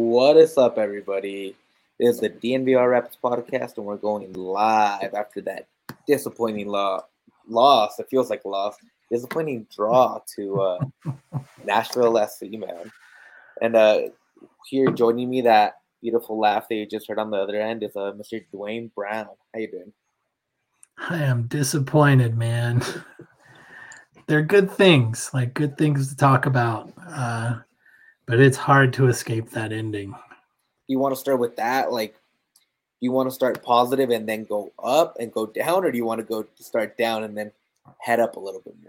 What is up, everybody? This is the DNVR Rapids podcast, and we're going live after that disappointing loss. It feels like a loss. Disappointing draw to Nashville SC, man. And here joining me, that beautiful laugh that you just heard on the other end is Mr. Dwayne Brown. How you doing? I am disappointed, man. They're good things to talk about, but it's hard to escape that ending. You want to start with that? Like, you want to start positive and then go up and go down, or do you want to go start down and then head up a little bit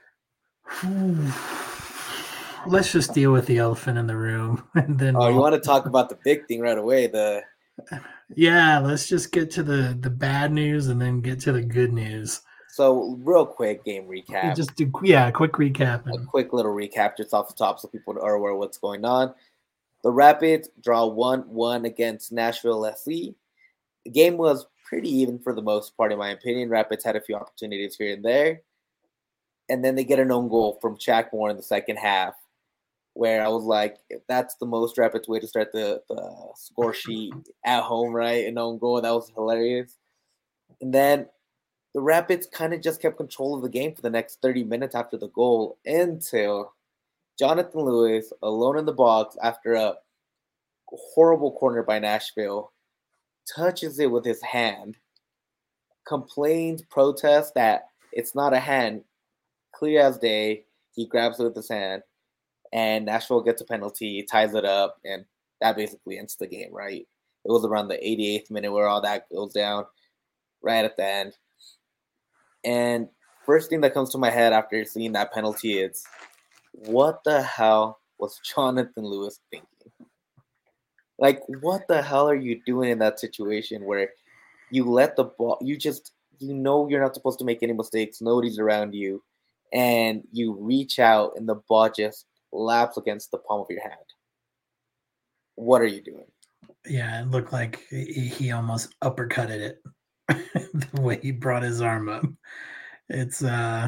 more? Let's just deal with the elephant in the room, and then. You want to talk about the big thing right away? Yeah, let's just get to the bad news and then get to the good news. So, real quick game recap. Just do a quick recap. A quick little recap just off the top so people are aware of what's going on. The Rapids draw 1-1 against Nashville SC. The game was pretty even for the most part, in my opinion. Rapids had a few opportunities here and there. And then they get an own goal from Shaq Moore in the second half, where I was like, if that's the most Rapids way to start the score sheet at home, right? An own goal, that was hilarious. And then the Rapids kind of just kept control of the game for the next 30 minutes after the goal until Jonathan Lewis, alone in the box after a horrible corner by Nashville, touches it with his hand, complains, protests that it's not a hand, clear as day. He grabs it with his hand, and Nashville gets a penalty, ties it up, and that basically ends the game, right? It was around the 88th minute where all that goes down, right at the end. And first thing that comes to my head after seeing that penalty is, what the hell was Jonathan Lewis thinking? Like, what the hell are you doing in that situation where you let the ball, you know you're not supposed to make any mistakes, nobody's around you, and you reach out and the ball just laps against the palm of your hand? What are you doing? Yeah, it looked like he almost uppercutted it the way he brought his arm up. It's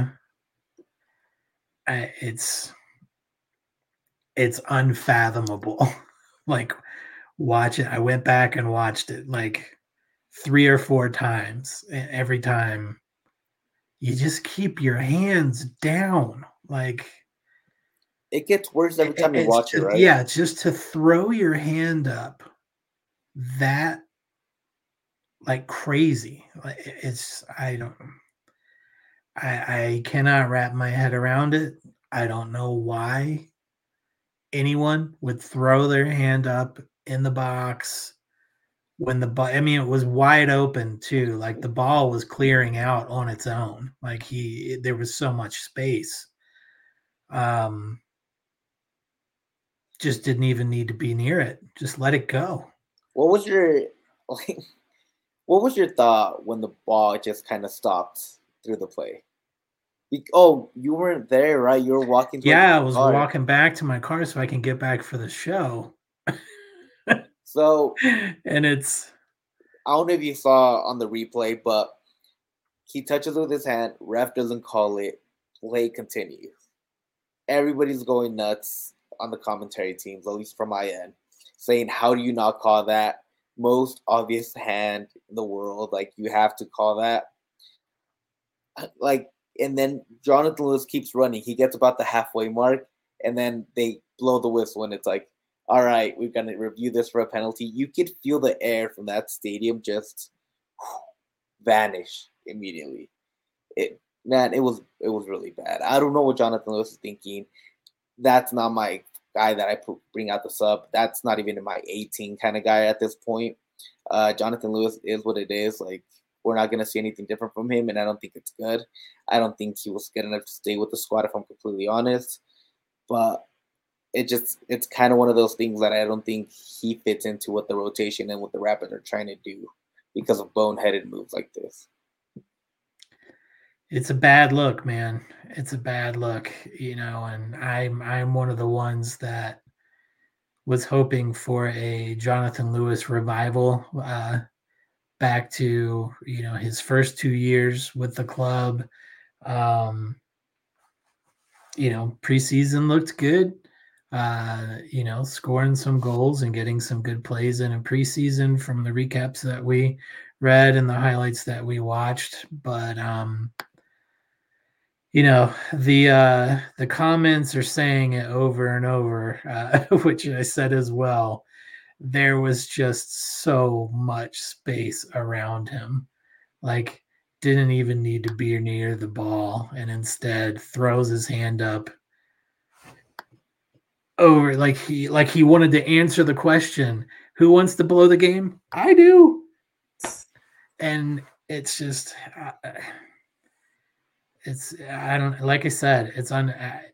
unfathomable. Like, watch it. I went back and watched it like 3 or 4 times. Every time you just keep your hands down. Like, it gets worse every time you watch it, right? Yeah, just to throw your hand up that like crazy. Like, I cannot wrap my head around it. I don't know why anyone would throw their hand up in the box when the ball, I mean, it was wide open too. Like, the ball was clearing out on its own. Like, there was so much space. Just didn't even need to be near it. Just let it go. What was your thought when the ball just kind of stopped through the play? Oh, you weren't there, right? You were walking. Yeah, I was walking back to my car so I can get back for the show. So, and it's, I don't know if you saw on the replay, but he touches it with his hand. Ref doesn't call it. Play continues. Everybody's going nuts on the commentary teams, at least from my end, saying, how do you not call that? Most obvious hand in the world. Like, you have to call that. Like, and then Jonathan Lewis keeps running. He gets about the halfway mark, and then they blow the whistle, and it's like, all right, we're going to review this for a penalty. You could feel the air from that stadium just vanish immediately. It was really bad. I don't know what Jonathan Lewis is thinking. That's not my guy that I bring out the sub. That's not even my 18 kind of guy at this point. Jonathan Lewis is what it is. Like, we're not going to see anything different from him, and I don't think it's good. I don't think he was good enough to stay with the squad, if I'm completely honest. But it's kind of one of those things that I don't think he fits into what the rotation and what the Rapids are trying to do because of boneheaded moves like this. It's a bad look, man. It's a bad look, and I'm one of the ones that was hoping for a Jonathan Lewis revival, back to, his first 2 years with the club. Preseason looked good. Scoring some goals and getting some good plays in a preseason from the recaps that we read and the highlights that we watched. But the comments are saying it over and over, which I said as well. There was just so much space around him. Like, didn't even need to be near the ball, and instead throws his hand up over like he wanted to answer the question, who wants to blow the game? I do. And it's just I don't, like I said, it's on.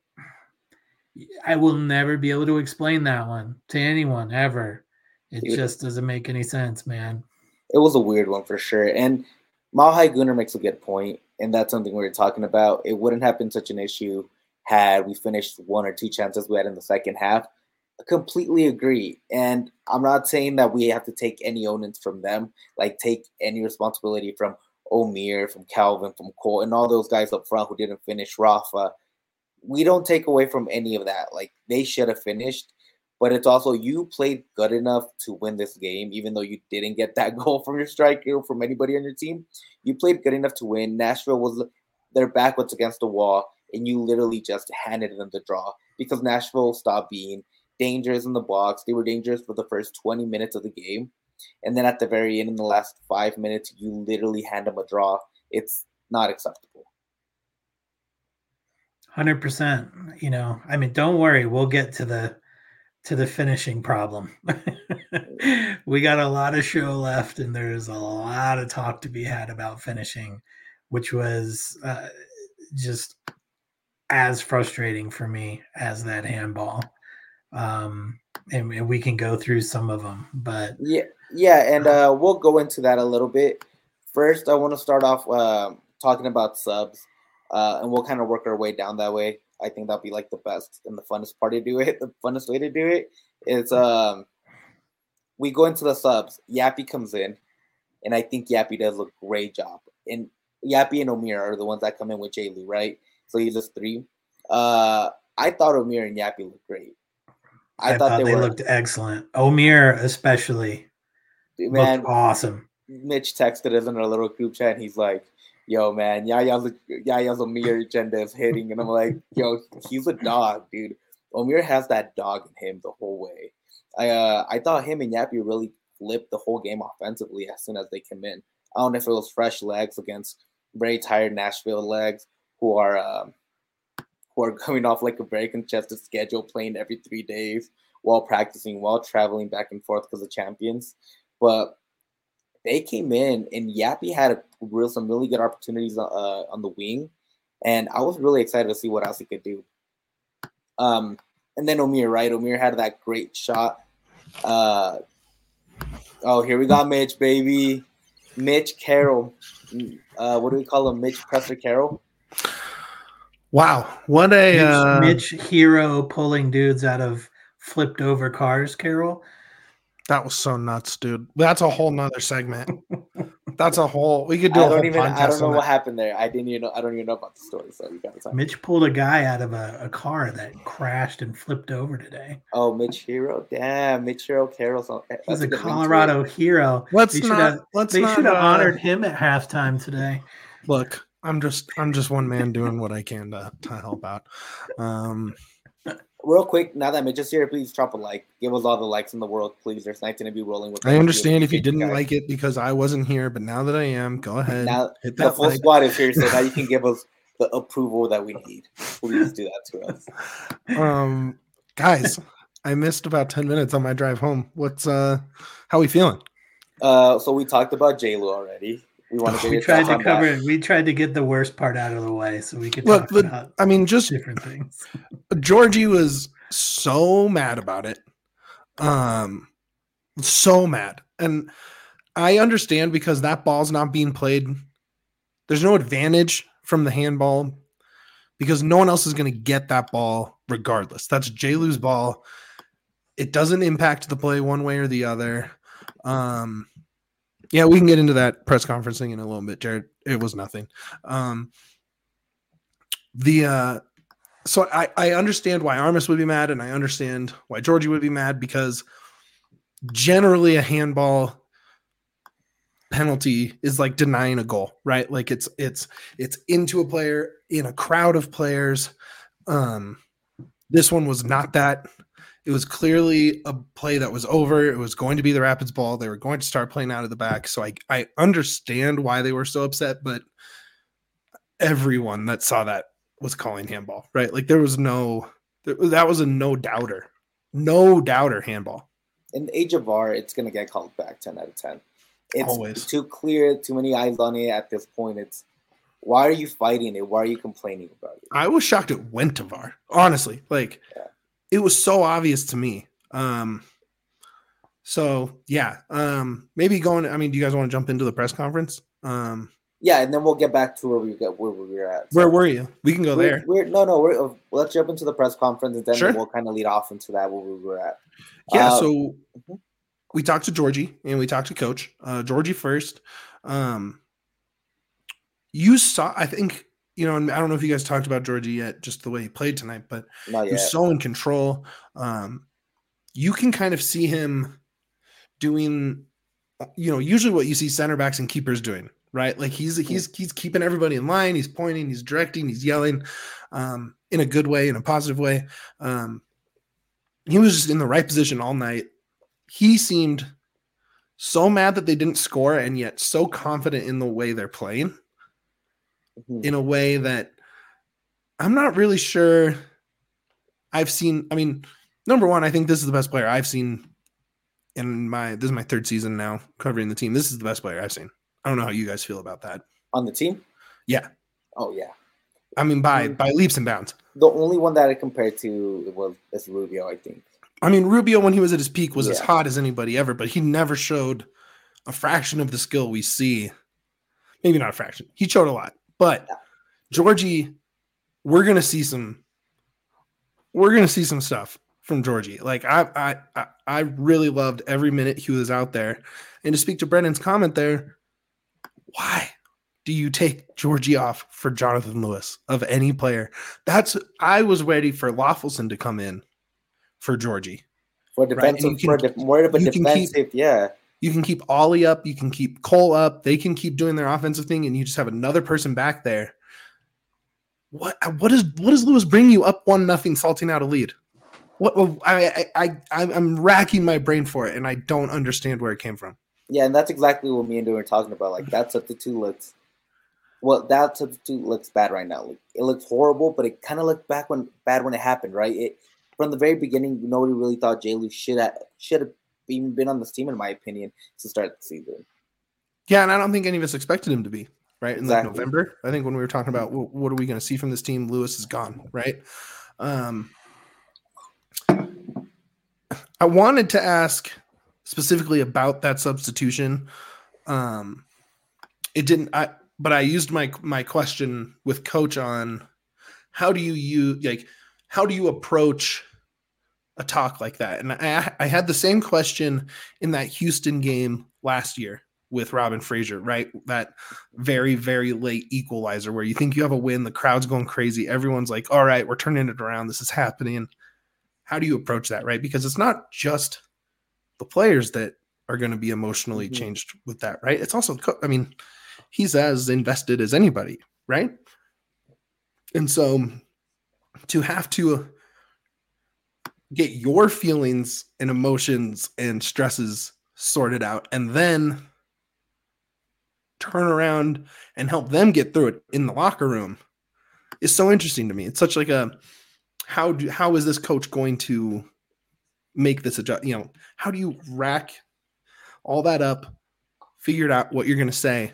I will never be able to explain that one to anyone ever. It just doesn't make any sense, man. It was a weird one for sure. And Malhai Gunnar makes a good point, and that's something we were talking about. It wouldn't have been such an issue had we finished one or two chances we had in the second half. I completely agree. And I'm not saying that we have to take any onus from them, like take any responsibility from Omir, from Calvin, from Cole, and all those guys up front who didn't finish. Rafa, we don't take away from any of that. Like, they should have finished, but it's also, you played good enough to win this game, even though you didn't get that goal from your striker or from anybody on your team. You played good enough to win. Nashville was their back was against the wall, and you literally just handed them the draw because Nashville stopped being dangerous in the box. They were dangerous for the first 20 minutes of the game. And then at the very end, in the last 5 minutes, you literally hand them a draw. It's not acceptable. 100%. I mean, don't worry, we'll get to the finishing problem. We got a lot of show left, and there's a lot of talk to be had about finishing, which was just as frustrating for me as that handball. And we can go through some of them, but and we'll go into that a little bit. First, I want to start off talking about subs, and we'll kind of work our way down that way. I think that'll be like the best and the funnest part to do it. The funnest way to do it is we go into the subs. Yappy comes in, and I think Yappy does a great job. And Yappy and Omir are the ones that come in with Jay Lou, right? So he's just three. I thought Omir and Yappy looked great. I thought they looked excellent. Omir especially looked awesome. Mitch texted us in our little group chat, and he's like, yo, man, Yaya's Omir agenda is hitting. And I'm like, yo, he's a dog, dude. Omir has that dog in him the whole way. I thought him and Yappy really flipped the whole game offensively as soon as they came in. I don't know if it was fresh legs against very tired Nashville legs who are coming off like a very congested schedule, playing every 3 days while practicing, while traveling back and forth because of champions. But they came in, and Yappy had some really good opportunities on the wing, and I was really excited to see what else he could do. And then Omir, right? Omir had that great shot. Here we got Mitch, baby. Mitch Carroll. What do we call him? Mitch Presser Carroll? Wow. What a... Mitch Hero pulling dudes out of flipped over cars, Carroll. That was so nuts, dude. That's a whole nother segment. That's a whole. We could do. I don't know what happened there. I don't even know about the story. So we got time. Mitch pulled a guy out of a car that crashed and flipped over today. Oh, Mitch Hero, damn, Mitch Hero Carroll. He's a Colorado hero. They should have honored him at halftime today. Look, I'm just one man doing what I can to help out. Real quick, now that Mitch is here, please drop a like. Give us all the likes in the world, please. There's nice to be rolling with. I understand if you didn't like it because I wasn't here, but now that I am, go ahead. Now hit that the full squad is here, so now you can give us the approval that we need. Please do that to us. Guys, I missed about 10 minutes on my drive home. How are we feeling? So we talked about J-Lo already. We tried to get the worst part out of the way so we could talk about just different things. Georgie was so mad about it. So mad. And I understand because that ball's not being played. There's no advantage from the handball because no one else is going to get that ball regardless. That's J-Lou's ball. It doesn't impact the play one way or the other. Yeah, we can get into that press conference thing in a little bit, Jared. It was nothing. So I understand why Armas would be mad, and I understand why Georgie would be mad, because generally a handball penalty is like denying a goal, right? Like it's into a player in a crowd of players. This one was not that. It was clearly a play that was over. It was going to be the Rapids ball. They were going to start playing out of the back. So I understand why they were so upset, but everyone that saw that was calling handball, right? Like that was a no doubter handball. In the age of VAR, it's going to get called back 10 out of 10. It's Always. too clear, too many eyes on it at this point. It's why are you fighting it? Why are you complaining about it? I was shocked it went to VAR, honestly. Like, It was so obvious to me. So yeah, maybe going. I mean, do you guys want to jump into the press conference? Yeah, and then we'll get back to where we were at. So where were you? We can go there. Let's jump into the press conference, and then Sure. we'll kind of lead off into that where we were at. Yeah. So we talked to Georgie and we talked to Coach. Georgie first. You saw, I think, and I don't know if you guys talked about Georgie yet, just the way he played tonight, but Not he was yet. so in control. You can kind of see him doing, usually what you see center backs and keepers doing, right? Like he's keeping everybody in line. He's pointing, he's directing, he's yelling, in a good way, in a positive way. He was just in the right position all night. He seemed so mad that they didn't score, and yet so confident in the way they're playing, in a way that I'm not really sure I've seen. I mean, number one, I think this is the best player I've seen this is my third season now covering the team. This is the best player I've seen. I don't know how you guys feel about that. On the team? Yeah. Oh, yeah. I mean, by leaps and bounds. The only one that I compared to is Rubio, I think. I mean, Rubio, when he was at his peak, was as hot as anybody ever, but he never showed a fraction of the skill we see. Maybe not a fraction. He showed a lot. But Georgie, we're gonna see some stuff from Georgie. Like I really loved every minute he was out there. And to speak to Brendan's comment there, why do you take Georgie off for Jonathan Lewis of any player? I was ready for Lawfulson to come in for Georgie. For defensive, right? More of a defensive, You can keep Ollie up, you can keep Cole up, they can keep doing their offensive thing, and you just have another person back there. What does Lewis bring you up 1-0, salting out a lead? I'm racking my brain for it, and I don't understand where it came from. Yeah, and that's exactly what me and Drew were talking about. Like that substitute looks bad right now. Like, it looks horrible, but it kind of looked bad when it happened, right? From the very beginning, nobody really thought Jay Lou should have even been on this team, in my opinion, to start the season. Yeah, and I don't think any of us expected him to be, right? In Exactly. like November, I think when we were talking about what are we going to see from this team, Lewis is gone, right? I wanted to ask specifically about that substitution. It didn't. But I used my question with Coach on how do you approach a talk like that? And I had the same question in that Houston game last year with Robin Fraser, right? That very, very late equalizer where you think you have a win, the crowd's going crazy. Everyone's like, all right, we're turning it around. This is happening. How do you approach that, right? Because it's not just the players that are going to be emotionally changed with that, right? It's also, I mean, he's as invested as anybody, right? And so to have to get your feelings and emotions and stresses sorted out and then turn around and help them get through it in the locker room is so interesting to me. It's such like how is this coach going to make this adjust? How do you rack all that up, figure out what you're going to say?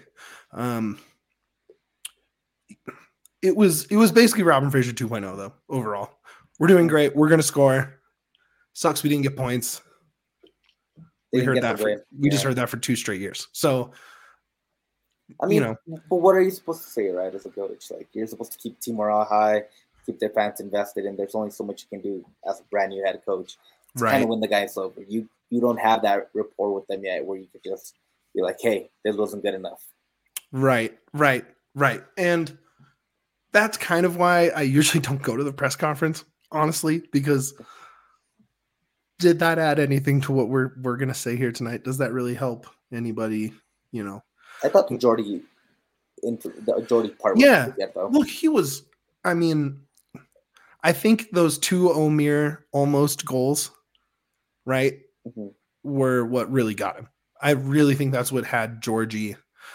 It was basically Robin Fraser 2.0 though. Overall, we're doing great. We're going to score. Sucks we didn't get points. We just heard that for 2 straight years. So, I mean, but what are you supposed to say, right? As a coach, like you're supposed to keep team morale high, keep their fans invested, and there's only so much you can do as a brand new head coach to kind of win the guys over. You don't have that rapport with them yet, where you could just be like, "Hey, this wasn't good enough." Right. And that's kind of why I usually don't go to the press conference, honestly, because did that add anything to what we're going to say here tonight? Does that really help anybody, you know? I thought the Jordy part was Yeah. pretty good, though. Look, he was, I mean, I think those two Omir almost goals, right, were what really got him. I really think that's what had Georgie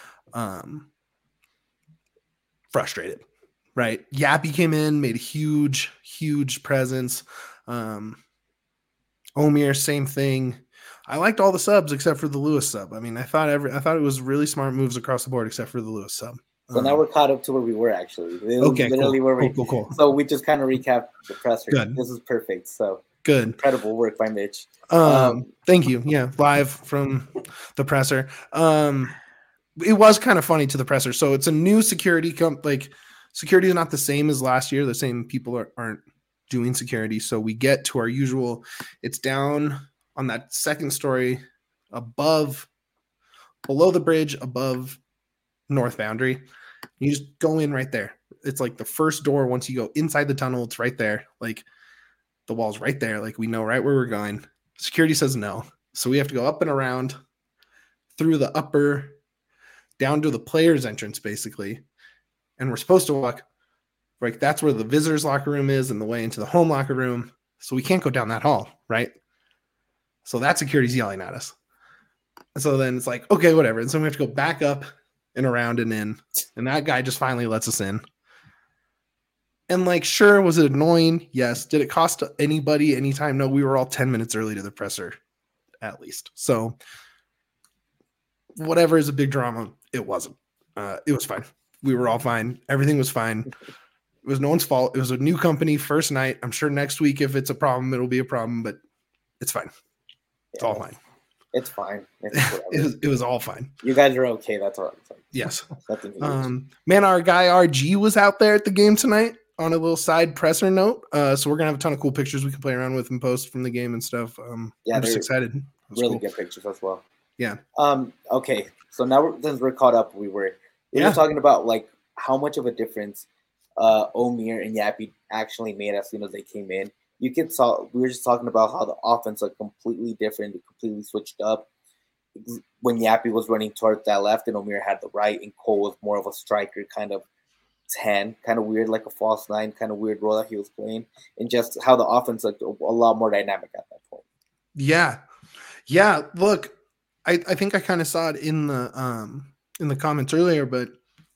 frustrated, right? Yappy came in, made a huge presence. Omir, same thing. I liked all the subs except for the Lewis sub. I mean, I thought it was really smart moves across the board except for the Lewis sub. So now we're caught up to where we were actually. Okay, literally cool. where we Cool. So we just kind of recapped the presser. Good. This is perfect. So good. Incredible work by Mitch. Thank you. Yeah, live from the presser. It was kind of funny to the presser. So it's a new security security is not the same as last year. The same people aren't doing security. So we get to our usual. It's down on that second story below the bridge, above north boundary. You just go in right there. It's like the first door. Once you go inside the tunnel, it's right there. Like the wall's right there. Like we know right where we're going. Security says no. So we have to go up and around through the upper down to the player's entrance, basically. And we're supposed to walk, like that's where the visitors locker room is and the way into the home locker room. So we can't go down that hall, right? So that security's yelling at us. So then it's like, okay, whatever. And so we have to go back up and around and in. And that guy just finally lets us in. And like, sure, was it annoying? Yes. Did it cost anybody any time? No, we were all 10 minutes early to the presser, at least. So whatever is a big drama, it wasn't. It was fine. We were all fine. Everything was fine. It was no one's fault. It was a new company, first night. I'm sure next week, if it's a problem, it'll be a problem, but it's fine. It's all fine. It's fine. It was all fine. You guys are okay. That's all. Yes. Man, our guy RG was out there at the game tonight on a little side presser note. So we're gonna have a ton of cool pictures we can play around with and post from the game and stuff. I'm just excited. Really good pictures as well. Yeah. Okay. So now since we're caught up, we were talking about like how much of a difference Omir and Yappy actually made as soon as they came in. We were just talking about how the offense looked completely different, completely switched up. When Yappy was running towards that left and Omir had the right, and Cole was more of a striker, kind of 10, kind of weird, like a false 9, kind of weird role that he was playing, and just how the offense looked a lot more dynamic at that point. Yeah. Look, I think I kind of saw it in the comments earlier, but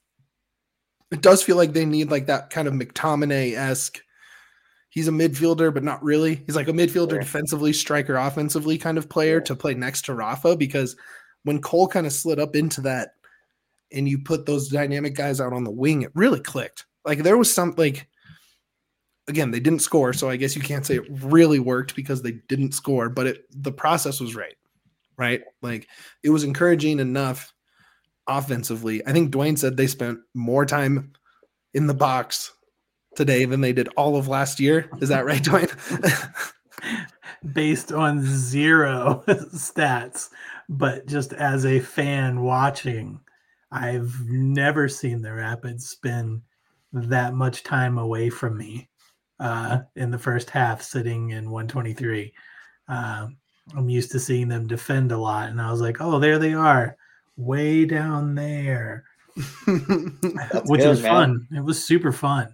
it does feel like they need like that kind of McTominay-esque. He's a midfielder, but not really. He's like a midfielder defensively, striker offensively kind of player to play next to Rafa, because when Cole kind of slid up into that and you put those dynamic guys out on the wing, it really clicked. Like there was some, like, again, they didn't score, so I guess you can't say it really worked because they didn't score, but the process was right? Like it was encouraging enough offensively. I think Dwayne said they spent more time in the box today than they did all of last year. Is that right, Dwayne? Based on zero stats, but just as a fan watching, I've never seen the Rapids spend that much time away from me in the first half, sitting in 123. I'm used to seeing them defend a lot, and I was like, oh, there they are, way down there, which was fun. It was super fun.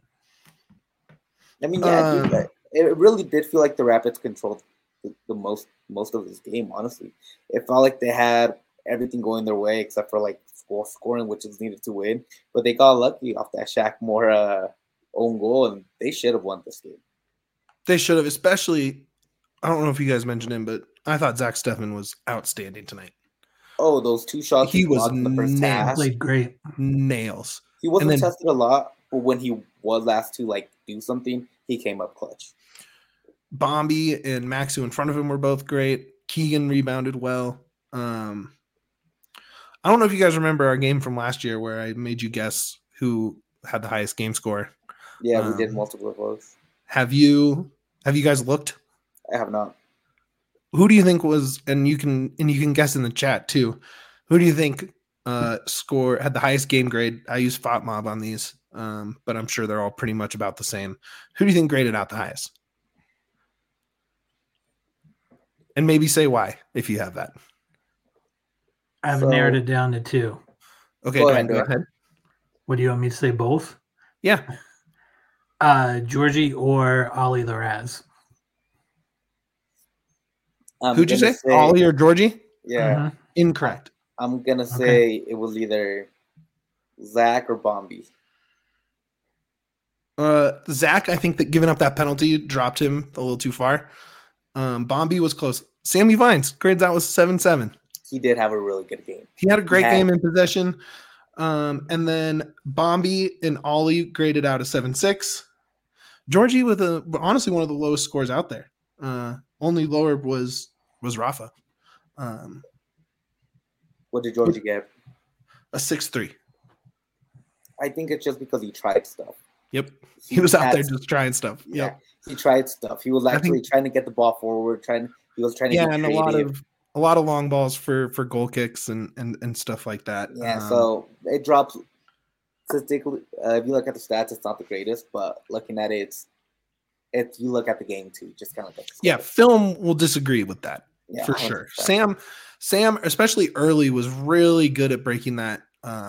I mean, it really did feel like the Rapids controlled the most of this game, honestly. It felt like they had everything going their way except for like scoring, which is needed to win. But they got lucky off that Shaq Moore own goal, and they should have won this game. They should have, especially, I don't know if you guys mentioned him, but I thought Zach Steffen was outstanding tonight. Oh, those 2 shots he was in the first half. Played great. Nails. He wasn't tested a lot, but when he was asked to like do something, he came up clutch. Bombi and Maxu in front of him were both great. Keegan rebounded well. I don't know if you guys remember our game from last year where I made you guess who had the highest game score. Yeah, we did multiple of those. Have you guys looked? I have not. Who do you think was, and you can guess in the chat too, who do you think had the highest game grade? I use FOTMob on these. but I'm sure they're all pretty much about the same. Who do you think graded out the highest? And maybe say why if you have that. I've narrowed it down to 2. Okay, Go Dwayne, ahead. go ahead. What do you want me to say? Both? Yeah. Georgie or Ollie Larraz. Who'd you say? Ollie or Georgie? Yeah. Mm-hmm. Incorrect. I'm going to say it was either Zach or Bombi. Zach, I think that giving up that penalty dropped him a little too far. Bombi was close. Sammy Vines grades out was 7-7. He did have a really good game. He had a great game in possession. And then Bombi and Ollie graded out a 7-6. Georgie with honestly one of the lowest scores out there. Only lower was Rafa. What did Georgie get? A 6-3. I think it's just because he tried stuff. Yep. He was out there just trying stuff. Yeah. Yep. He tried stuff. He was actually trying to get the ball forward, he was trying to get and creative. a lot of long balls for goal kicks and stuff like that. Yeah, so it drops statistically. If you look at the stats, it's not the greatest, but looking at it, it's you look at the game too, just kind of like film will disagree with that for 100%. Sure. Sam, especially early, was really good at breaking that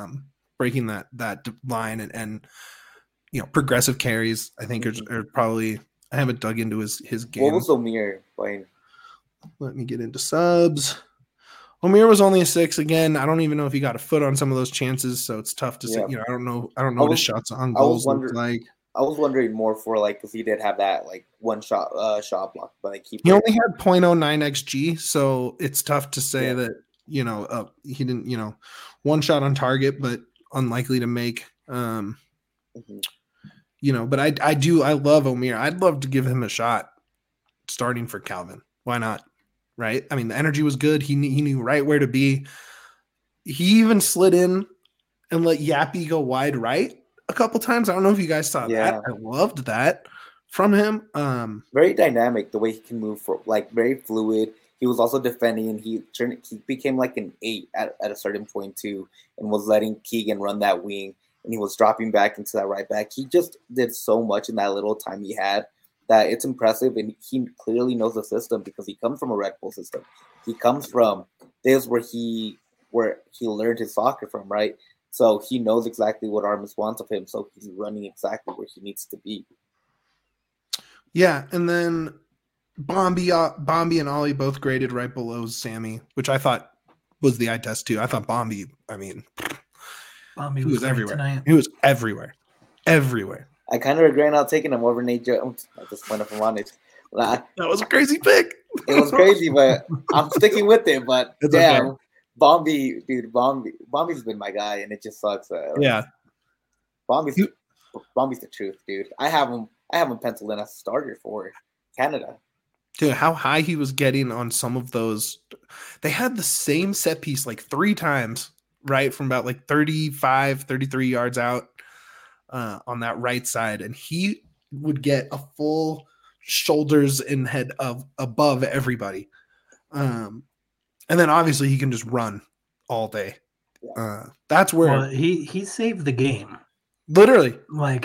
line and progressive carries. I think are probably. I haven't dug into his game. What was Omir playing? Let me get into subs. Omir was only a 6 again. I don't even know if he got a foot on some of those chances, so it's tough to say. I don't know what his shots on goals look like. I was wondering more for because he did have that one shot block, but he only had 0.09 xG, so it's tough to say that he didn't one shot on target, but unlikely to make. But I love Omir. I'd love to give him a shot starting for Calvin. Why not? Right? I mean, the energy was good. He knew right where to be. He even slid in and let Yappy go wide right a couple times. I don't know if you guys saw that. I loved that from him. Very dynamic the way he can move very fluid. He was also defending, and he became like an 8 at a certain point too, and was letting Keegan run that wing. And he was dropping back into that right back. He just did so much in that little time he had that it's impressive. And he clearly knows the system because he comes from a Red Bull system. He comes from this where he learned his soccer from, right? So he knows exactly what Armas wants of him. So he's running exactly where he needs to be. Yeah, and then Bombi and Ollie both graded right below Sammy, which I thought was the eye test too. I thought Bombi, he was everywhere. Tonight. He was everywhere. I kind of regret not taking him over Nate Jones at this point, if I'm honest. That was a crazy pick. It was crazy, but I'm sticking with it. But it's damn, okay. Bombi's been my guy, and it just sucks. Bombi's the truth, dude. I have him penciled in as a starter for Canada. Dude, how high he was getting on some of those. They had the same set piece 3 times. Right from about 35, 33 yards out on that right side. And he would get a full shoulders and head above everybody. And then obviously he can just run all day. That's where he saved the game. Literally.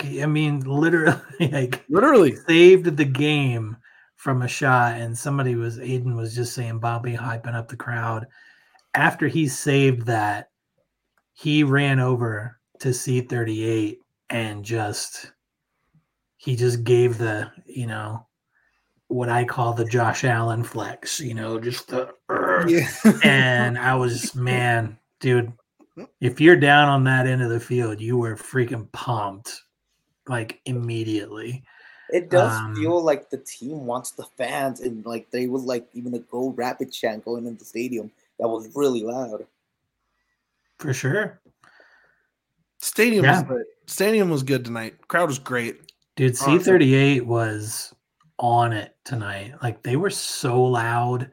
Literally saved the game from a shot. And Aiden was just saying Bobby hyping up the crowd. After he saved that, he ran over to C38 and he just gave the, what I call the Josh Allen flex, just the, and I was, man, dude, if you're down on that end of the field, you were freaking pumped, immediately. It does feel like the team wants the fans, and they was even a Go Rapid chant going into the stadium that was really loud. For sure. Stadium was good tonight. Crowd was great. Dude, C38 was on it tonight. They were so loud.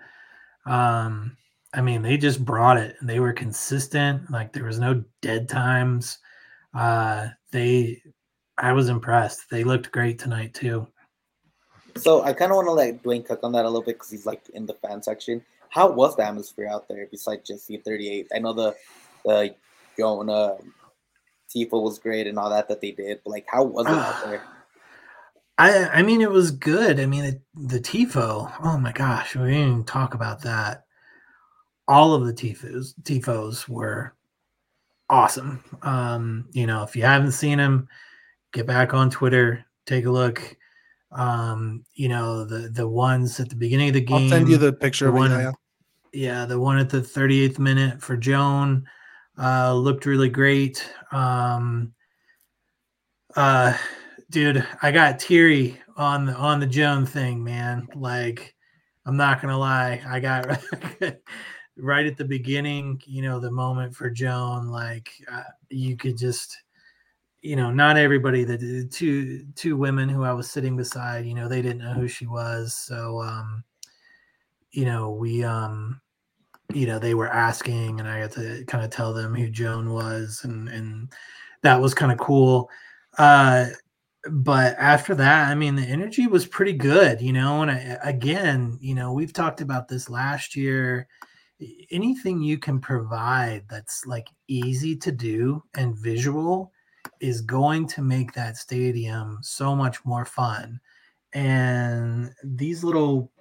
They just brought it. They were consistent. There was no dead times. I was impressed. They looked great tonight too. So I kind of want to let Dwayne cook on that a little bit because he's in the fan section. How was the atmosphere out there besides just C38? I know the Tifo was great and all that they did. But like, how was it out there? I mean, it was good. I mean, the Tifo. Oh my gosh, we didn't even talk about that. All of the Tifos were awesome. If you haven't seen them, get back on Twitter, take a look. The ones at the beginning of the game. I'll send you the picture of one, it. Yeah, the one at the 38th minute for Joan looked really great. Dude, I got teary on the Joan thing, man. Like, I'm not gonna lie, I got right at the beginning, the moment for Joan. Like, you could just, not everybody. The two women who I was sitting beside, they didn't know who she was, so they were asking, and I had to kind of tell them who Joan was, and that was kind of cool. But after that, I mean, the energy was pretty good, and we've talked about this last year. Anything you can provide that's like easy to do and visual is going to make that stadium so much more fun. And these little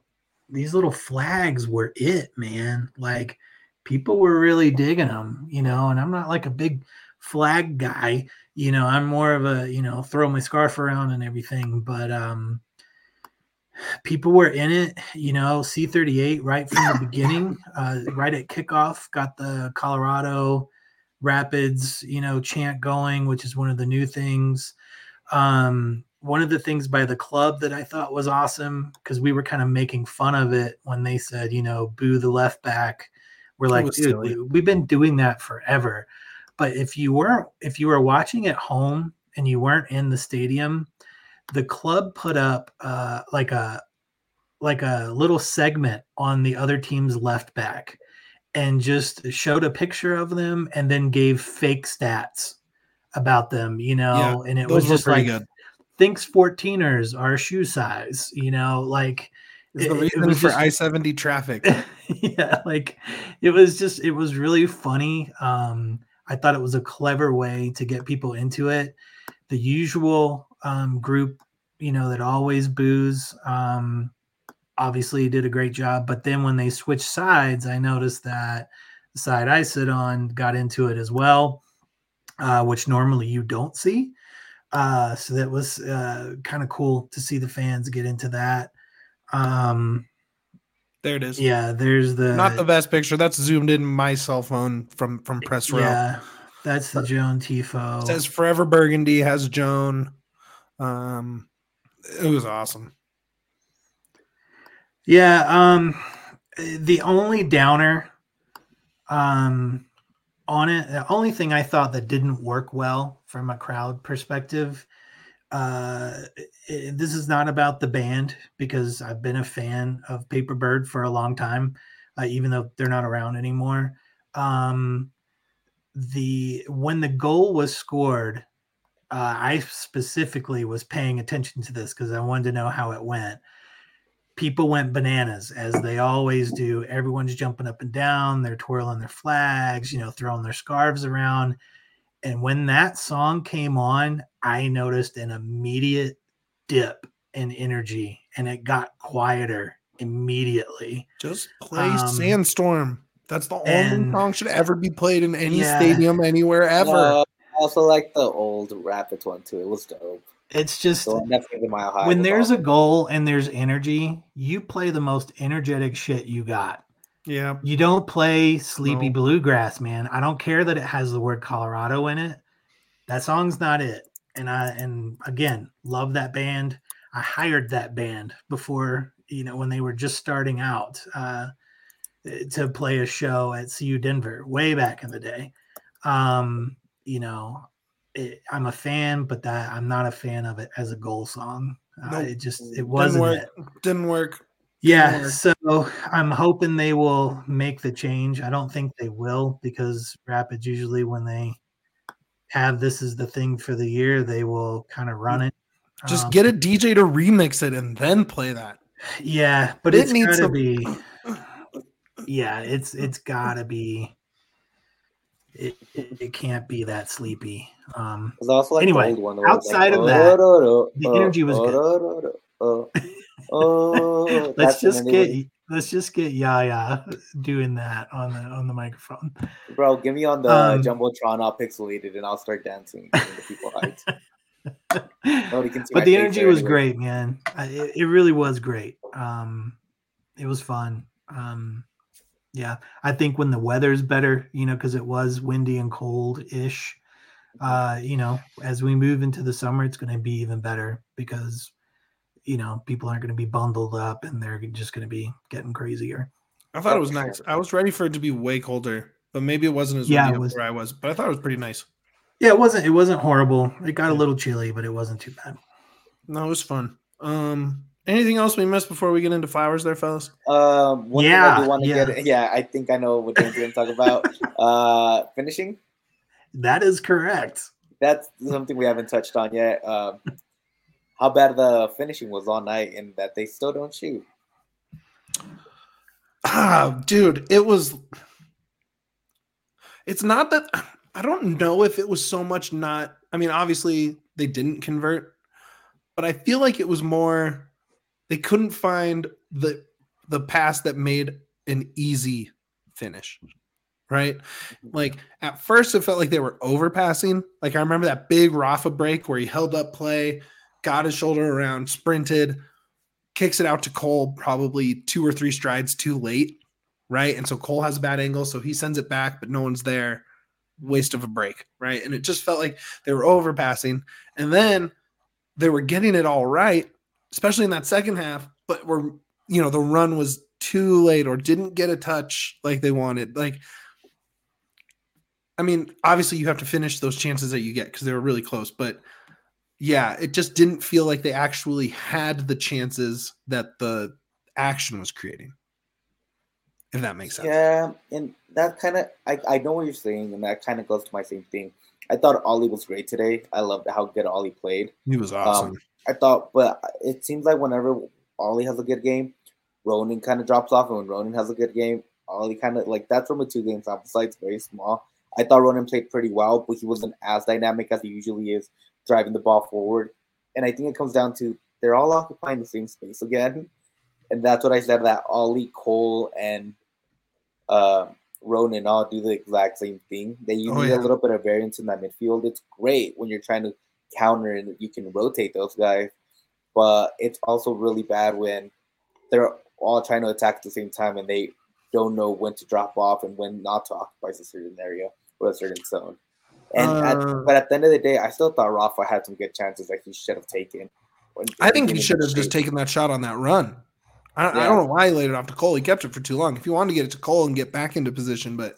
flags were it, man. Like, people were really digging them, and I'm not like a big flag guy. I'm more of a, throw my scarf around and everything, but people were in it. C38 right from the beginning, right at kickoff, got the Colorado Rapids, chant going, which is one of the new things. One of the things by the club that I thought was awesome, because we were kind of making fun of it when they said, boo the left back. We're like, dude, we've been doing that forever. But if you were watching at home and you weren't in the stadium, the club put up like a little segment on the other team's left back and just showed a picture of them and then gave fake stats about them, and it was just like, good. Thinks 14ers are shoe size, like it's the reason for I-70 traffic. Yeah, like it was really funny. I thought it was a clever way to get people into it. The usual group, that always boos, obviously did a great job. But then when they switched sides, I noticed that the side I sit on got into it as well, which normally you don't see. So that was kind of cool to see the fans get into that. There it is. Yeah, there's not the best picture. That's zoomed in my cell phone from press row. Yeah, that's the Joan Tifo. It says Forever Burgundy, has Joan. It was awesome. Yeah, the only downer on it, the only thing I thought that didn't work well from a crowd perspective, this is not about the band, because I've been a fan of Paper Bird for a long time, even though they're not around anymore. When the goal was scored, I specifically was paying attention to this because I wanted to know how it went. People went bananas, as they always do. Everyone's jumping up and down. They're twirling their flags, throwing their scarves around. And when that song came on, I noticed an immediate dip in energy, and it got quieter immediately. Just play Sandstorm. That's the only song should ever be played in any stadium anywhere ever. I also like the old Rapids one too. It was dope. It's just so definitely Mile High. When there's a goal and there's energy, you play the most energetic shit you got. Yeah. You don't play Sleepy Bluegrass, man. I don't care that it has the word Colorado in it. That song's not it. And again, love that band. I hired that band before, when they were just starting out to play a show at CU Denver way back in the day. I'm a fan, but I'm not a fan of it as a goal song. It wasn't. Didn't work. Yeah, so I'm hoping they will make the change. I don't think they will, because Rapids usually, when they have this is the thing for the year, they will kind of run it. Just get a DJ to remix it and then play that. Yeah, but it's gotta be. Yeah, it's gotta be. it can't be that sleepy. There's also like Anyway, the old one where it's like, outside of that, the energy was good. That's and then they would, let's just get Yaya doing that on the microphone. bro, give me on the Jumbotron all pixelated and I'll start dancing and the people hyped. Nobody can see But my the face energy there was anyway. great, man. It really was great. It was fun. Yeah, I think when the weather's better, because it was windy and cold-ish, as we move into the summer, it's going to be even better because, people aren't going to be bundled up and they're just going to be getting crazier. I thought it was nice. I was ready for it to be way colder, but maybe it wasn't as windy where I was. But I thought it was pretty nice. Yeah, it wasn't horrible. It got a little chilly, but it wasn't too bad. No, it was fun. Anything else we missed before we get into flowers there, fellas? One thing I do want to get. Yeah, I think I know what Dane's going to talk about. Finishing. That is correct. That's something we haven't touched on yet. How bad the finishing was all night, and that they still don't shoot. Dude, it was. It's not that. I don't know if it was so much not. I mean, obviously they didn't convert, but I feel like it was more. They couldn't find the pass that made an easy finish, right? Like at first it felt like they were overpassing. Like I remember that big Rafa break where he held up play, got his shoulder around, sprinted, kicks it out to Cole probably 2 or 3 strides too late, right? And so Cole has a bad angle, so he sends it back, but no one's there. Waste of a break, right? And it just felt like they were overpassing. And then they were getting it all right, especially in that second half, but the run was too late or didn't get a touch like they wanted. Like, I mean, obviously you have to finish those chances that you get because they were really close, but yeah, it just didn't feel like they actually had the chances that the action was creating. If that makes sense. Yeah, and that kind of, I know what you're saying, and that kind of goes to my same thing. I thought Ollie was great today. I loved how good Ollie played. He was awesome. I thought, but it seems like whenever Ollie has a good game, Ronan kind of drops off, and when Ronan has a good game, Ollie kind of, like, that's from a 2-game sample size, very small. I thought Ronan played pretty well, but he wasn't as dynamic as he usually is driving the ball forward. And I think it comes down to they're all occupying the same space again. And that's what I said, that Ollie, Cole, and Ronan all do the exact same thing. That you need a little bit of variance in that midfield. It's great when you're trying to counter and you can rotate those guys, but it's also really bad when they're all trying to attack at the same time and they don't know when to drop off and when not to occupy a certain area or a certain zone. And but at the end of the day, I still thought Rafa had some good chances that he should have taken. I think he should have just taken that shot on that run. I don't know why he laid it off to Cole. He kept it for too long. If you wanted to get it to Cole and get back into position, but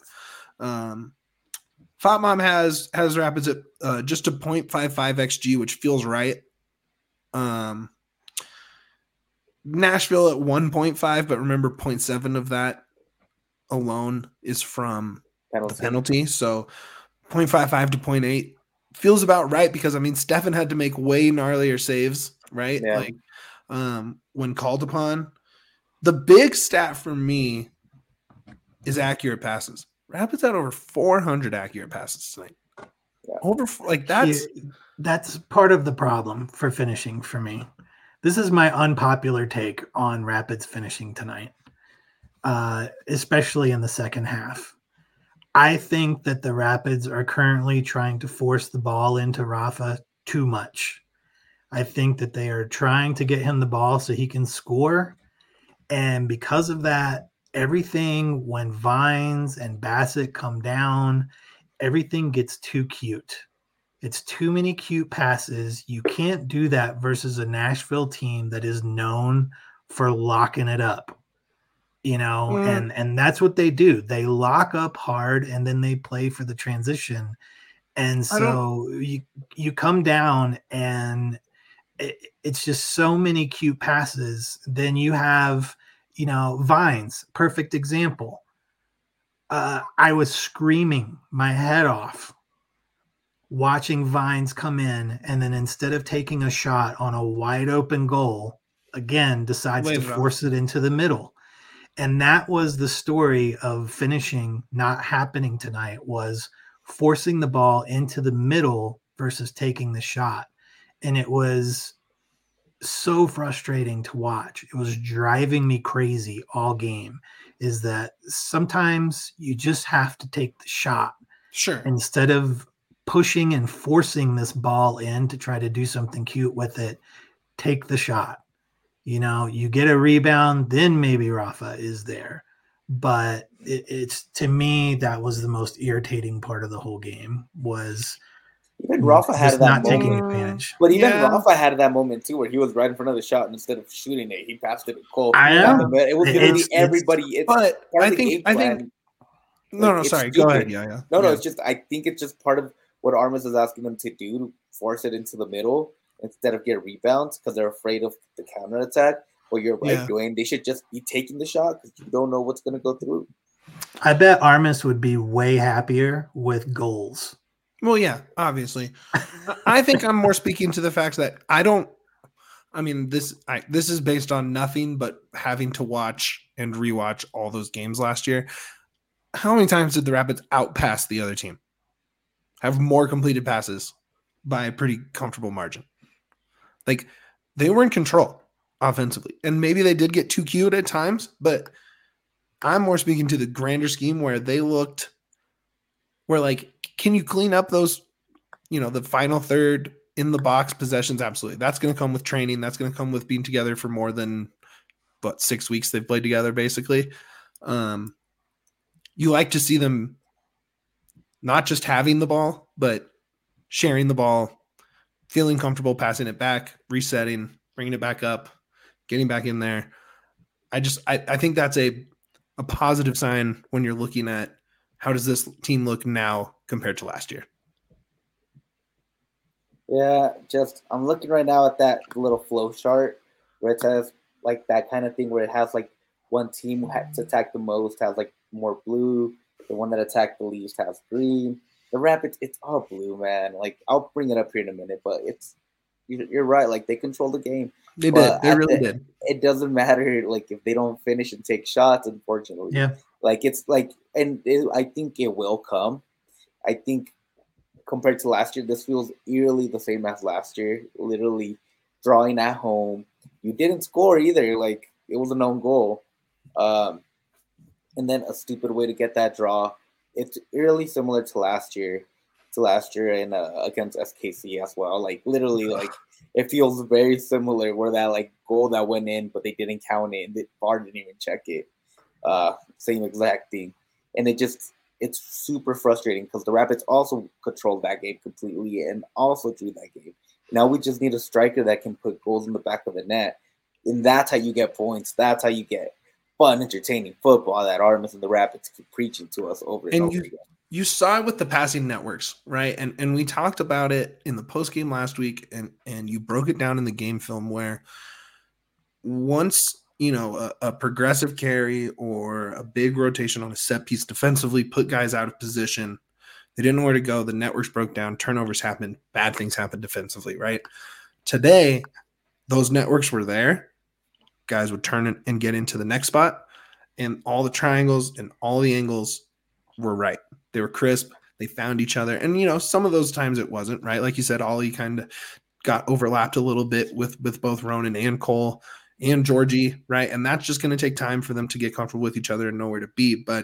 Fatmom has Rapids at just a 0.55 XG, which feels right. Nashville at 1.5, but remember 0.7 of that alone is from the penalty. So 0.55 to 0.8 feels about right because, I mean, Stefan had to make way gnarlier saves, right? Yeah. Like when called upon. The big stat for me is accurate passes. Rapids had over 400 accurate passes tonight. Yeah. That's part of the problem for finishing for me. This is my unpopular take on Rapids finishing tonight, especially in the second half. I think that the Rapids are currently trying to force the ball into Rafa too much. I think that they are trying to get him the ball so he can score. And because of that, everything, when Vines and Bassett come down, everything gets too cute. It's too many cute passes. You can't do that versus a Nashville team that is known for locking it up, and that's what they do. They lock up hard and then they play for the transition. And so you come down and it's just so many cute passes. Then you have, Vines, perfect example. I was screaming my head off watching Vines come in, and then instead of taking a shot on a wide open goal, again, decides to force it into the middle. And that was the story of finishing not happening tonight, was forcing the ball into the middle versus taking the shot. And it was so frustrating to watch. It was driving me crazy all game, is that sometimes you just have to take the shot. Sure. Instead of pushing and forcing this ball in to try to do something cute with it, take the shot. You get a rebound, then maybe Rafa is there. But it's to me, that was the most irritating part of the whole game, was even Rafa had just that not moment. taking advantage. But even Yeah. Rafa had that moment too, where he was right in front of the shot, and instead of shooting it, he passed it to Cole. I know. It was literally It's- everybody. It's But part I of the think game I plan. think no, It's sorry. Go ahead. stupid. Yeah. No, it's just I think it's just part of what Armas is asking them to do, to force it into the middle instead of get rebounds because they're afraid of the counterattack. Well, you're right, Yeah. Dwayne. They should just be taking the shot because you don't know what's going to go through. I bet Armas would be way happier with goals. Well, yeah, obviously. I think I'm more speaking to the fact that this is based on nothing but having to watch and rewatch all those games last year. How many times did the Rapids outpass the other team? Have more completed passes by a pretty comfortable margin. Like, they were in control offensively. And maybe they did get too cute at times, but I'm more speaking to the grander scheme where like, can you clean up those, the final third in the box possessions? Absolutely. That's going to come with training. That's going to come with being together for more than 6 weeks they've played together, basically. You like to see them not just having the ball, but sharing the ball, feeling comfortable passing it back, resetting, bringing it back up, getting back in there. I think that's a positive sign when you're looking at how does this team look now compared to last year. Yeah, I'm looking right now at that little flow chart where it says like that kind of thing where it has like one team to attack the most has like more blue, the one that attacked the least has green. The Rapids, it's all blue, man. Like I'll bring it up here in a minute, but you're right. Like they control the game. They did. They really did. It doesn't matter like if they don't finish and take shots. Unfortunately, Yeah. Like it's like, I think it will come. I think compared to last year, this feels eerily the same as last year. Literally drawing at home. You didn't score either. Like it was an own goal, and then a stupid way to get that draw. It's eerily similar to last year. And against SKC as well. Like literally, like it feels very similar. Where that like goal that went in, but they didn't count it, and the VAR didn't even check it. Same exact thing, and it's super frustrating because the Rapids also controlled that game completely and also drew that game. Now we just need a striker that can put goals in the back of the net, and that's how you get points. That's how you get fun, entertaining football that Armas and the Rapids keep preaching to us over and over again. You saw it with the passing networks, right? And we talked about it in the post game last week, and you broke it down in the game film where once a progressive carry or a big rotation on a set piece defensively put guys out of position. They didn't know where to go. The networks broke down. Turnovers happened. Bad things happened defensively, right? Today, those networks were there. Guys would turn and get into the next spot, and all the triangles and all the angles were right. They were crisp. They found each other. And, some of those times it wasn't, right? Like you said, Ollie kind of got overlapped a little bit with both Ronan and Cole and Georgie, right? And that's just going to take time for them to get comfortable with each other and know where to be. But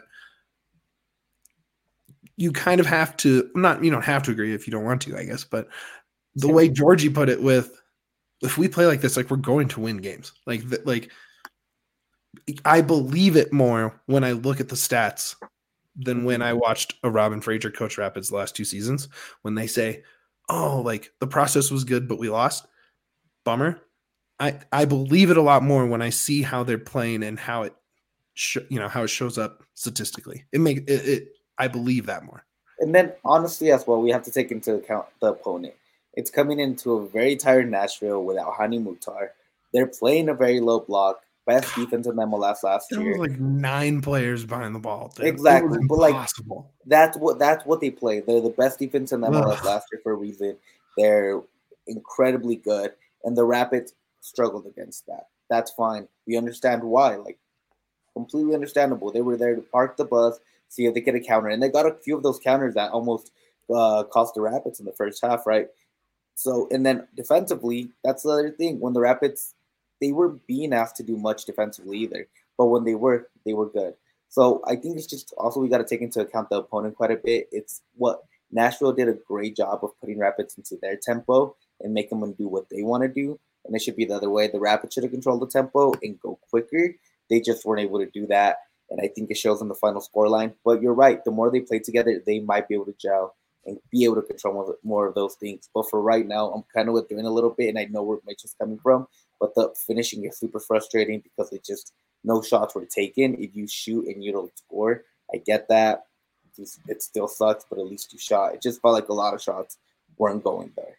you kind of have to, you don't have to agree if you don't want to, I guess. But the way Georgie put it if we play like this, like we're going to win games. Like I believe it more when I look at the stats than when I watched a Robin Fraser coach Rapids the last 2 seasons, when they say, oh, like the process was good, but we lost. Bummer. I believe it a lot more when I see how they're playing and how it how it shows up statistically. I believe that more. And then honestly as well, we have to take into account the opponent. It's coming into a very tired Nashville without Hani Mukhtar. They're playing a very low block. Best defense in MLS last year. There was like 9 players behind the ball. Dude. Exactly. But impossible. That's what they play. They're the best defense in MLS last year for a reason. They're incredibly good. And the Rapids struggled against that. That's fine. We understand why. Like completely understandable. They were there to park the bus, see if they get a counter, and they got a few of those counters that almost cost the Rapids in the first half, right? So, and then defensively, that's the other thing. When the Rapids, they weren't being asked to do much defensively either, but when they were good. So I think it's just also we got to take into account the opponent quite a bit. It's what Nashville did a great job of putting Rapids into their tempo and making them do what they want to do. And it should be the other way. The Rapids should have controlled the tempo and go quicker. They just weren't able to do that. And I think it shows in the final scoreline. But you're right. The more they play together, they might be able to gel and be able to control more of those things. But for right now, I'm kind of withdrawing a little bit, and I know where Mitch is coming from. But the finishing is super frustrating because it just no shots were taken. If you shoot and you don't score, I get that. It still sucks, but at least you shot. It just felt like a lot of shots weren't going there.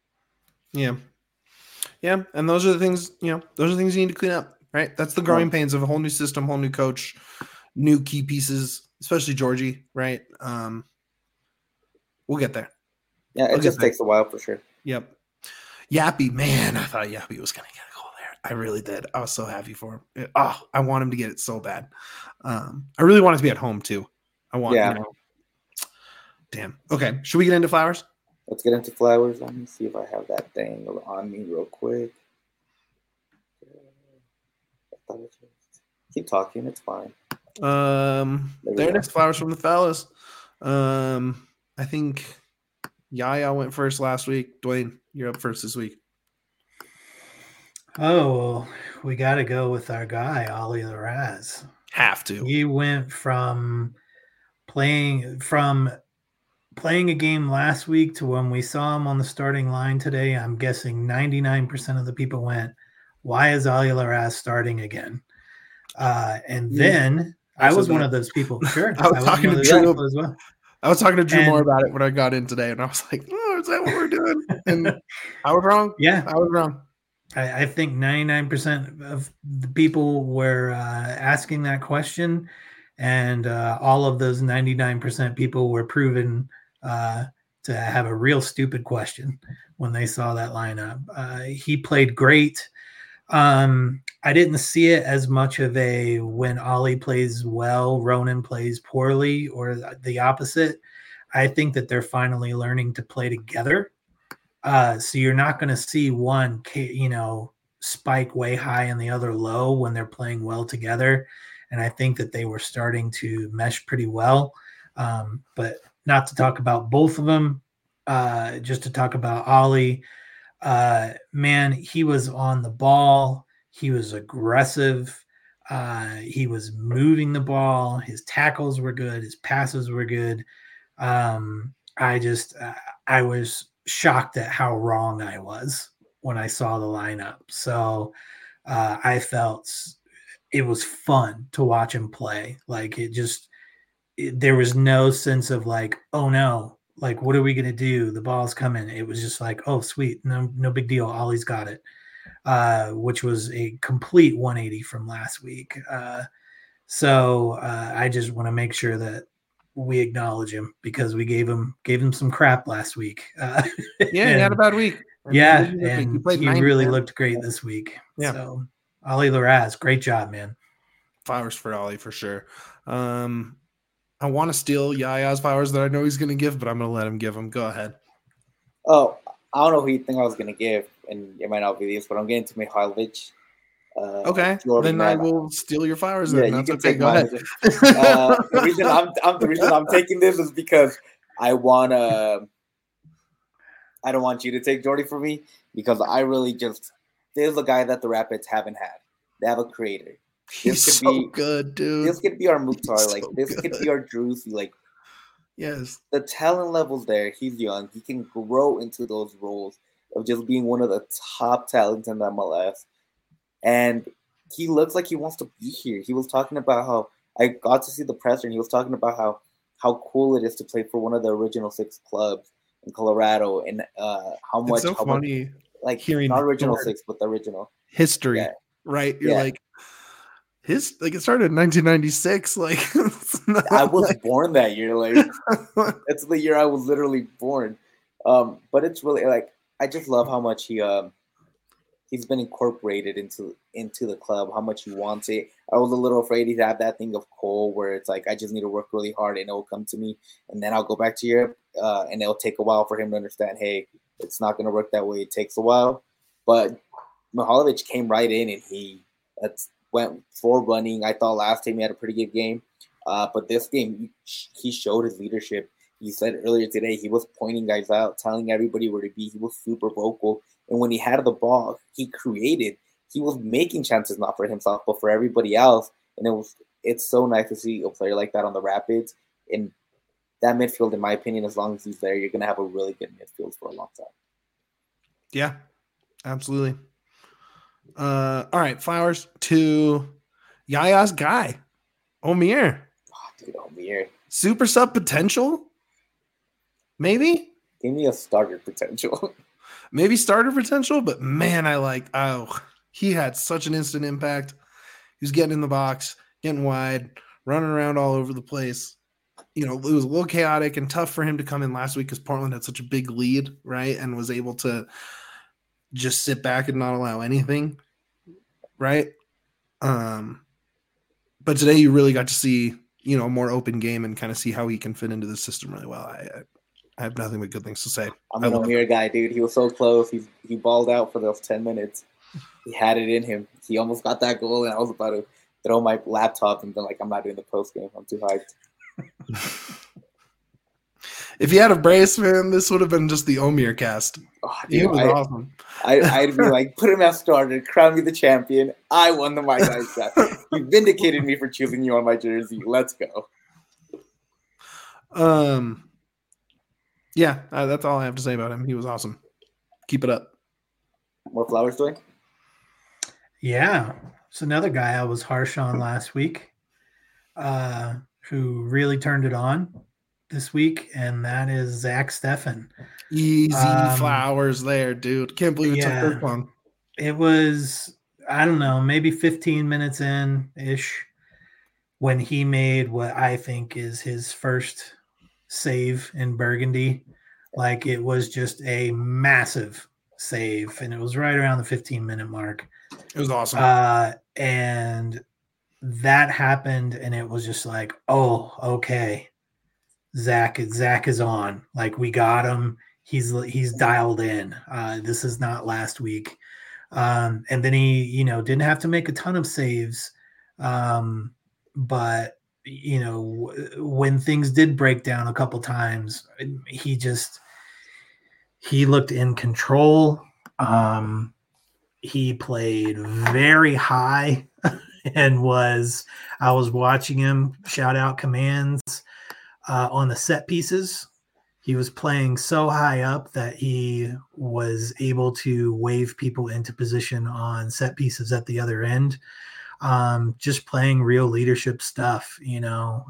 Yeah, and those are the things, those are the things you need to clean up, right? That's the growing pains of a whole new system, whole new coach, new key pieces, especially Georgie, right? We'll get there. Yeah, it just takes a while for sure. Yep. Yappy, man, I thought Yappy was going to get a goal there. I really did. I was so happy for him. I want him to get it so bad. I really want it to be at home too. Damn. Okay, should we get into Flowers? Let's get into Flowers. Let me see if I have that thing on me real quick. Keep talking. It's fine. There next Flowers from the fellas. I think Yaya went first last week. Dwayne, you're up first this week. Oh, well, we got to go with our guy, Ollie Larraz. Have to. He went from playing a game last week to when we saw him on the starting line today. I'm guessing 99% of the people went, why is Ollie Larraz starting again? And then I was one of those people. Sure. I was talking to Drew as well. I was talking to Drew more about it when I got in today, and I was like, oh, is that what we're doing? And I was wrong. Yeah. I was wrong. I think 99% of the people were asking that question, and all of those 99% people were proven to have a real stupid question when they saw that lineup. He played great. I didn't see it as much of a when Ollie plays well, Ronan plays poorly, or the opposite. I think that they're finally learning to play together. So you're not going to see one, spike way high and the other low when they're playing well together. And I think that they were starting to mesh pretty well. But not to talk about both of them, just to talk about Ollie. Man, he was on the ball. He was aggressive. He was moving the ball. His tackles were good. His passes were good. I was shocked at how wrong I was when I saw the lineup. So I felt it was fun to watch him play. Like there was no sense of like, oh no, like, what are we going to do? The ball's coming. It was just like, oh, sweet. No big deal. Ollie's got it, which was a complete 180 from last week. So I just want to make sure that we acknowledge him because we gave him some crap last week. He had a bad week. And he really looked great this week. Yeah. So Ollie Larraz, great job, man. Flowers for Ollie for sure. I want to steal Yaya's flowers that I know he's going to give, but I'm going to let him give them. Go ahead. Oh, I don't know who you think I was going to give, and it might not be these, but I'm getting to Mihailovic. Okay, then I will steal your flowers. Yeah, then. you That's can okay. take Go ahead. The reason I'm taking this is because I don't want you to take Jordy for me because I really just there's a guy that the Rapids haven't had. They have a creator. He's so good, dude. This could be our Mukhtar. This could be our Druzy. Yes. The talent level's there. He's young. He can grow into those roles of just being one of the top talents in the MLS. And he looks like he wants to be here. He was talking about how I got to see the presser, and he was talking about how cool it is to play for one of the original 6 clubs in Colorado, and how much. It's so funny, hearing not original 6, but the original history. Yeah. Right? You're like. It started in 1996. I was born that year. That's the year I was literally born. But it's really I just love how much he he's been incorporated into the club, how much he wants it. I was a little afraid he'd have that thing of Cole where it's like I just need to work really hard and it will come to me, and then I'll go back to Europe, and it'll take a while for him to understand, hey, it's not going to work that way. It takes a while. But Mihajlovic came right in and he went full running. I thought last time he had a pretty good game, but this game he showed his leadership. He said earlier today he was pointing guys out, telling everybody where to be. He was super vocal. And when he had the ball, he created. He was making chances not for himself, but for everybody else. And it's so nice to see a player like that on the Rapids. And that midfield, in my opinion, as long as he's there, you're going to have a really good midfield for a long time. Yeah, absolutely. All right, flowers to Yaya's guy, Omir. Oh, dude, Omir. Super sub potential? Maybe? Give me a starter potential. Maybe starter potential, but man, he had such an instant impact. He was getting in the box, getting wide, running around all over the place. It was a little chaotic and tough for him to come in last week because Portland had such a big lead, right? And was able to just sit back and not allow anything, right? But today you really got to see, a more open game and kind of see how he can fit into the system really well. I have nothing but good things to say. I'm an Omir guy, dude. He was so close. He balled out for those 10 minutes. He had it in him. He almost got that goal, and I was about to throw my laptop and then I'm not doing the post game. I'm too hyped. If he had a brace, man, this would have been just the Omir cast. Oh, dude, he was awesome. I'd be like, put him as starter, crown me the champion. I won the My Guys draft. You vindicated me for choosing you on my jersey. Let's go. Yeah, that's all I have to say about him. He was awesome. Keep it up. More flowers, Dwayne? Yeah. It's another guy I was harsh on last week, who really turned it on this week, and that is Zach Steffen. Easy flowers there, dude. Can't believe it took this long. It was, I don't know, maybe 15 minutes in-ish when he made what I think is his first save in Burgundy. Like, it was just a massive save, and it was right around the 15-minute mark. It was awesome. And that happened, and it was just like, oh, okay. Zach is on. Like, we got him. He's dialed in. This is not last week. And then he, didn't have to make a ton of saves. But when things did break down a couple times, he looked in control. He played very high and I was watching him shout out commands on the set pieces. He was playing so high up that he was able to wave people into position on set pieces at the other end. Just playing real leadership stuff, and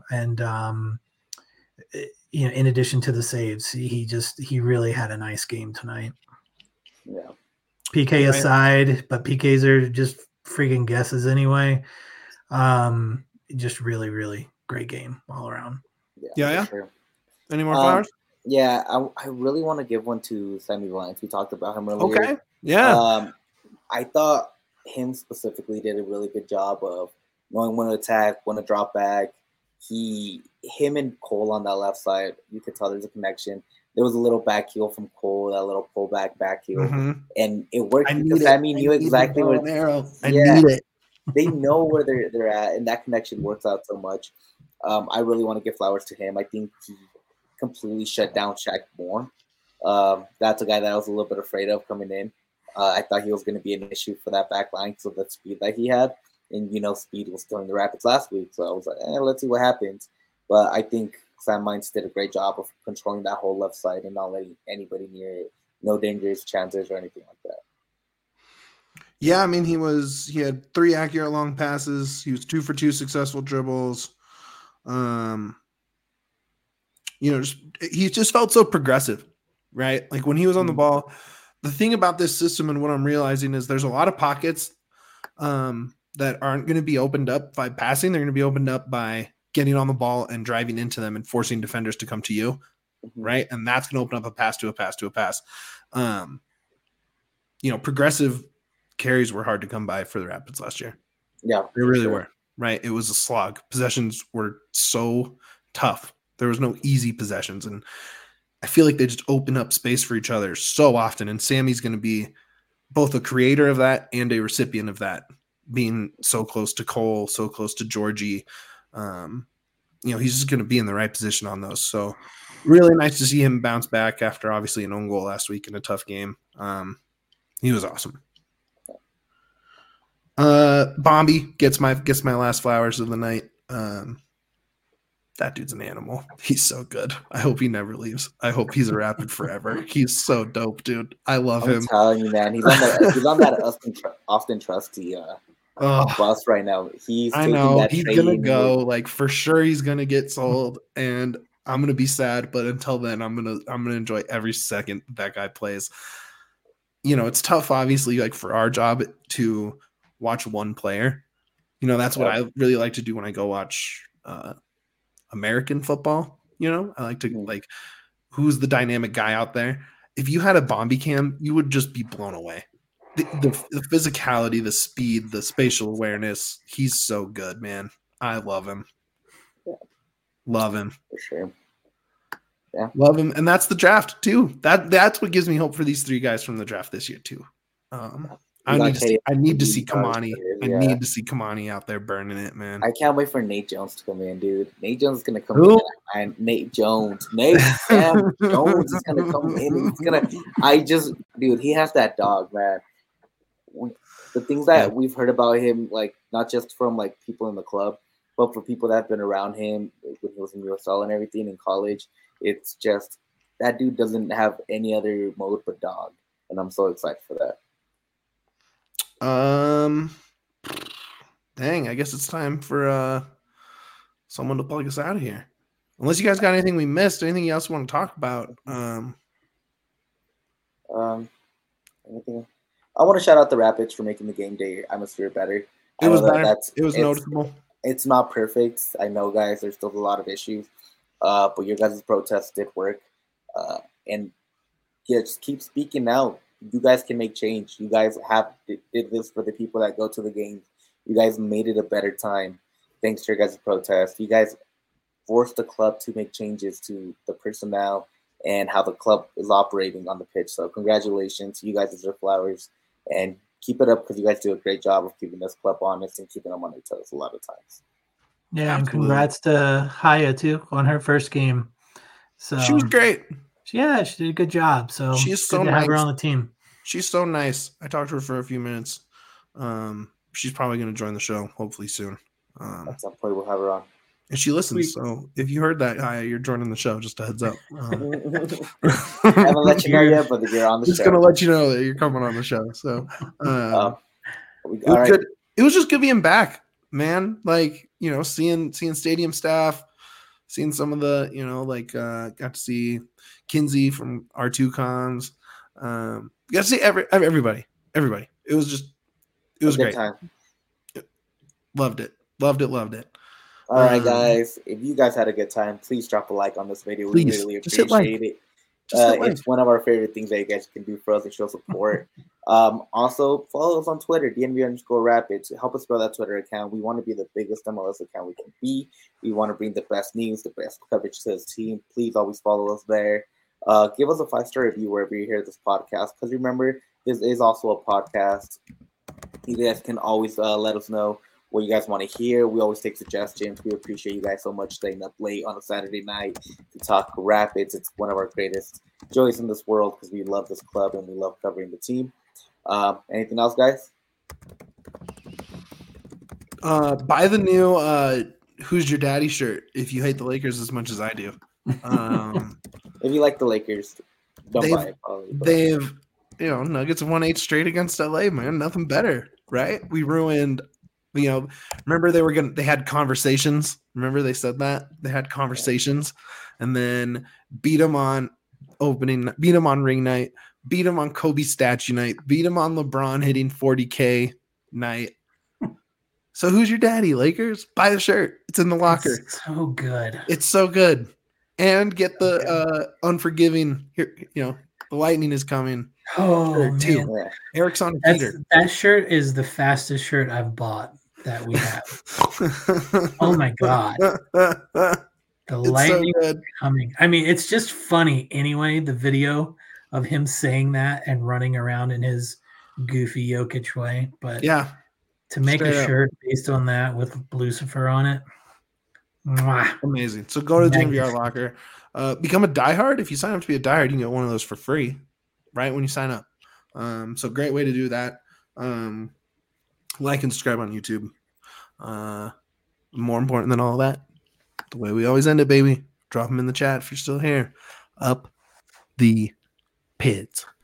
in addition to the saves, he really had a nice game tonight. Yeah. PK aside, but PKs are just freaking guesses anyway. Just really, really great game all around. Yeah. Sure. Any more flowers? Yeah, I really want to give one to Sammy Vines. We talked about him earlier. Okay. Yeah. I thought him specifically did a really good job of knowing when to attack, when to drop back. Him and Cole on that left side, you could tell there's a connection. There was a little back heel from Cole, that little pullback heel, and it worked because Sammy knew exactly where. I need it. They know where they're at, and that connection works out so much. I really want to give flowers to him. I think he completely shut down Shaq Moore. That's a guy that I was a little bit afraid of coming in. I thought he was going to be an issue for that back line, so the speed that he had. And, speed was still in the Rapids last week. So I was like, let's see what happens. But I think Sam Mines did a great job of controlling that whole left side and not letting anybody near it. No dangerous chances or anything like that. Yeah, I mean, he had 3 accurate long passes. He was 2 for 2 successful dribbles. He just felt so progressive, right? Like when he was on the ball, the thing about this system and what I'm realizing is there's a lot of pockets that aren't going to be opened up by passing. They're going to be opened up by getting on the ball and driving into them and forcing defenders to come to you, right? And that's going to open up a pass to a pass to a pass. Progressive carries were hard to come by for the Rapids last year. Yeah, they really were. Right, it was a slog. Possessions were so tough. There was no easy possessions, and I feel like they just open up space for each other so often. And Sammy's going to be both a creator of that and a recipient of that, being so close to Cole, so close to Georgie. He's just going to be in the right position on those. So really nice to see him bounce back after obviously an own goal last week in a tough game. He was awesome. Bombi gets my last flowers of the night. That dude's an animal. He's so good. I hope he never leaves. I hope he's a Rapid forever. He's so dope, dude. I love him. I'm telling you, man. He's on that Austin Trusty bus right now. I know he's gonna go. Like for sure, he's gonna get sold, and I'm gonna be sad. But until then, I'm gonna enjoy every second that guy plays. It's tough, obviously, like for our job to watch one player. That's what I really like to do when I go watch American football. I like to like who's the dynamic guy out there. If you had a Bombi cam, you would just be blown away. The physicality, the speed, the spatial awareness. He's so good, man. I love him. Yeah. Love him. For sure. Yeah. Love him. And that's the draft too. That's what gives me hope for these three guys from the draft this year too. I need to see Kamani. I need to see Kamani out there burning it, man. I can't wait for Nate Jones to come in, dude. Nate Jones is gonna come in. And Nate Jones. Sam Jones is gonna come in. Dude, he has that dog, man. The things that we've heard about him, like not just from like people in the club, but for people that have been around him when he was in USL and everything in college, it's just that dude doesn't have any other mode but dog, and I'm so excited for that. Dang, I guess it's time for someone to plug us out of here. Unless you guys got anything we missed, anything else you want to talk about? Anything? I want to shout out the Rapids for making the game day atmosphere better. It was better. It was noticeable. It's not perfect. I know, guys. There's still a lot of issues, but your guys' protest did work. And yeah, just keep speaking out. You guys can make change. You guys did this for the people that go to the games. You guys made it a better time thanks to your guys' protest. You guys forced the club to make changes to the personnel and how the club is operating on the pitch. So congratulations. You guys deserve flowers. And keep it up because you guys do a great job of keeping this club honest and keeping them on their toes a lot of times. Yeah, and congrats to Haya, too, on her first game. So she was great. Yeah, she did a good job. So she's so good to nice. have her on the team. She's so nice. I talked to her for a few minutes. She's probably going to join the show hopefully soon. At some point, we'll have her on. And she listens. So if you heard that, Haya, you're joining the show. Just a heads up. I haven't let you know yet, but you're on the show. Just going to let you know that you're coming on the show. So good. It was just good being back, man. Like, seeing stadium staff, seeing some of the, got to see Kinsey from R2 Cons. Got to see everybody. It was great. Time. Loved it. All right, guys. If you guys had a good time, please drop a like on this video. We really appreciate it. It's one of our favorite things that you guys can do for us to show support. Also, follow us on Twitter, DNV_Rapids. Help us grow that Twitter account. We want to be the biggest MLS account we can be. We want to bring the best news, the best coverage to this team. Please always follow us there. Give us a 5-star review wherever you hear this podcast. Because remember, this is also a podcast. You guys can always let us know what you guys want to hear. We always take suggestions. We appreciate you guys so much staying up late on a Saturday night to talk Rapids. It's one of our greatest joys in this world because we love this club and we love covering the team. Anything else, guys? Buy the new Who's Your Daddy shirt if you hate the Lakers as much as I do. If you like the Lakers, don't buy it. They've, Nuggets have won 8 straight against LA, man. Nothing better, right? We ruined, remember they had conversations. Remember they said that? They had conversations and then beat them on ring night, beat them on Kobe statue night, beat them on LeBron hitting 40K night. So who's your daddy, Lakers? Buy the shirt. It's in the locker. It's so good. It's so good. And get the unforgiving here, The lightning is coming. Oh Shirt, too. man, Yeah. Eric's on a heater. that shirt is the fastest shirt I've bought that we have. Oh my God. The It's so lightning good. coming. I mean, it's just funny anyway. The video of him saying that and running around in his goofy Jokic way, but Yeah. to make Straight a up. shirt based on that with Lucifer on it, mwah. Amazing. So go to the DNVR Magnificent. locker. Become a diehard. If you sign up to be a diehard, you can get one of those for free, right when you sign up. So great way to do that. Like and subscribe on YouTube. More important than all that, the way we always end it, baby. Drop them in the chat if you're still here. Up the Pids.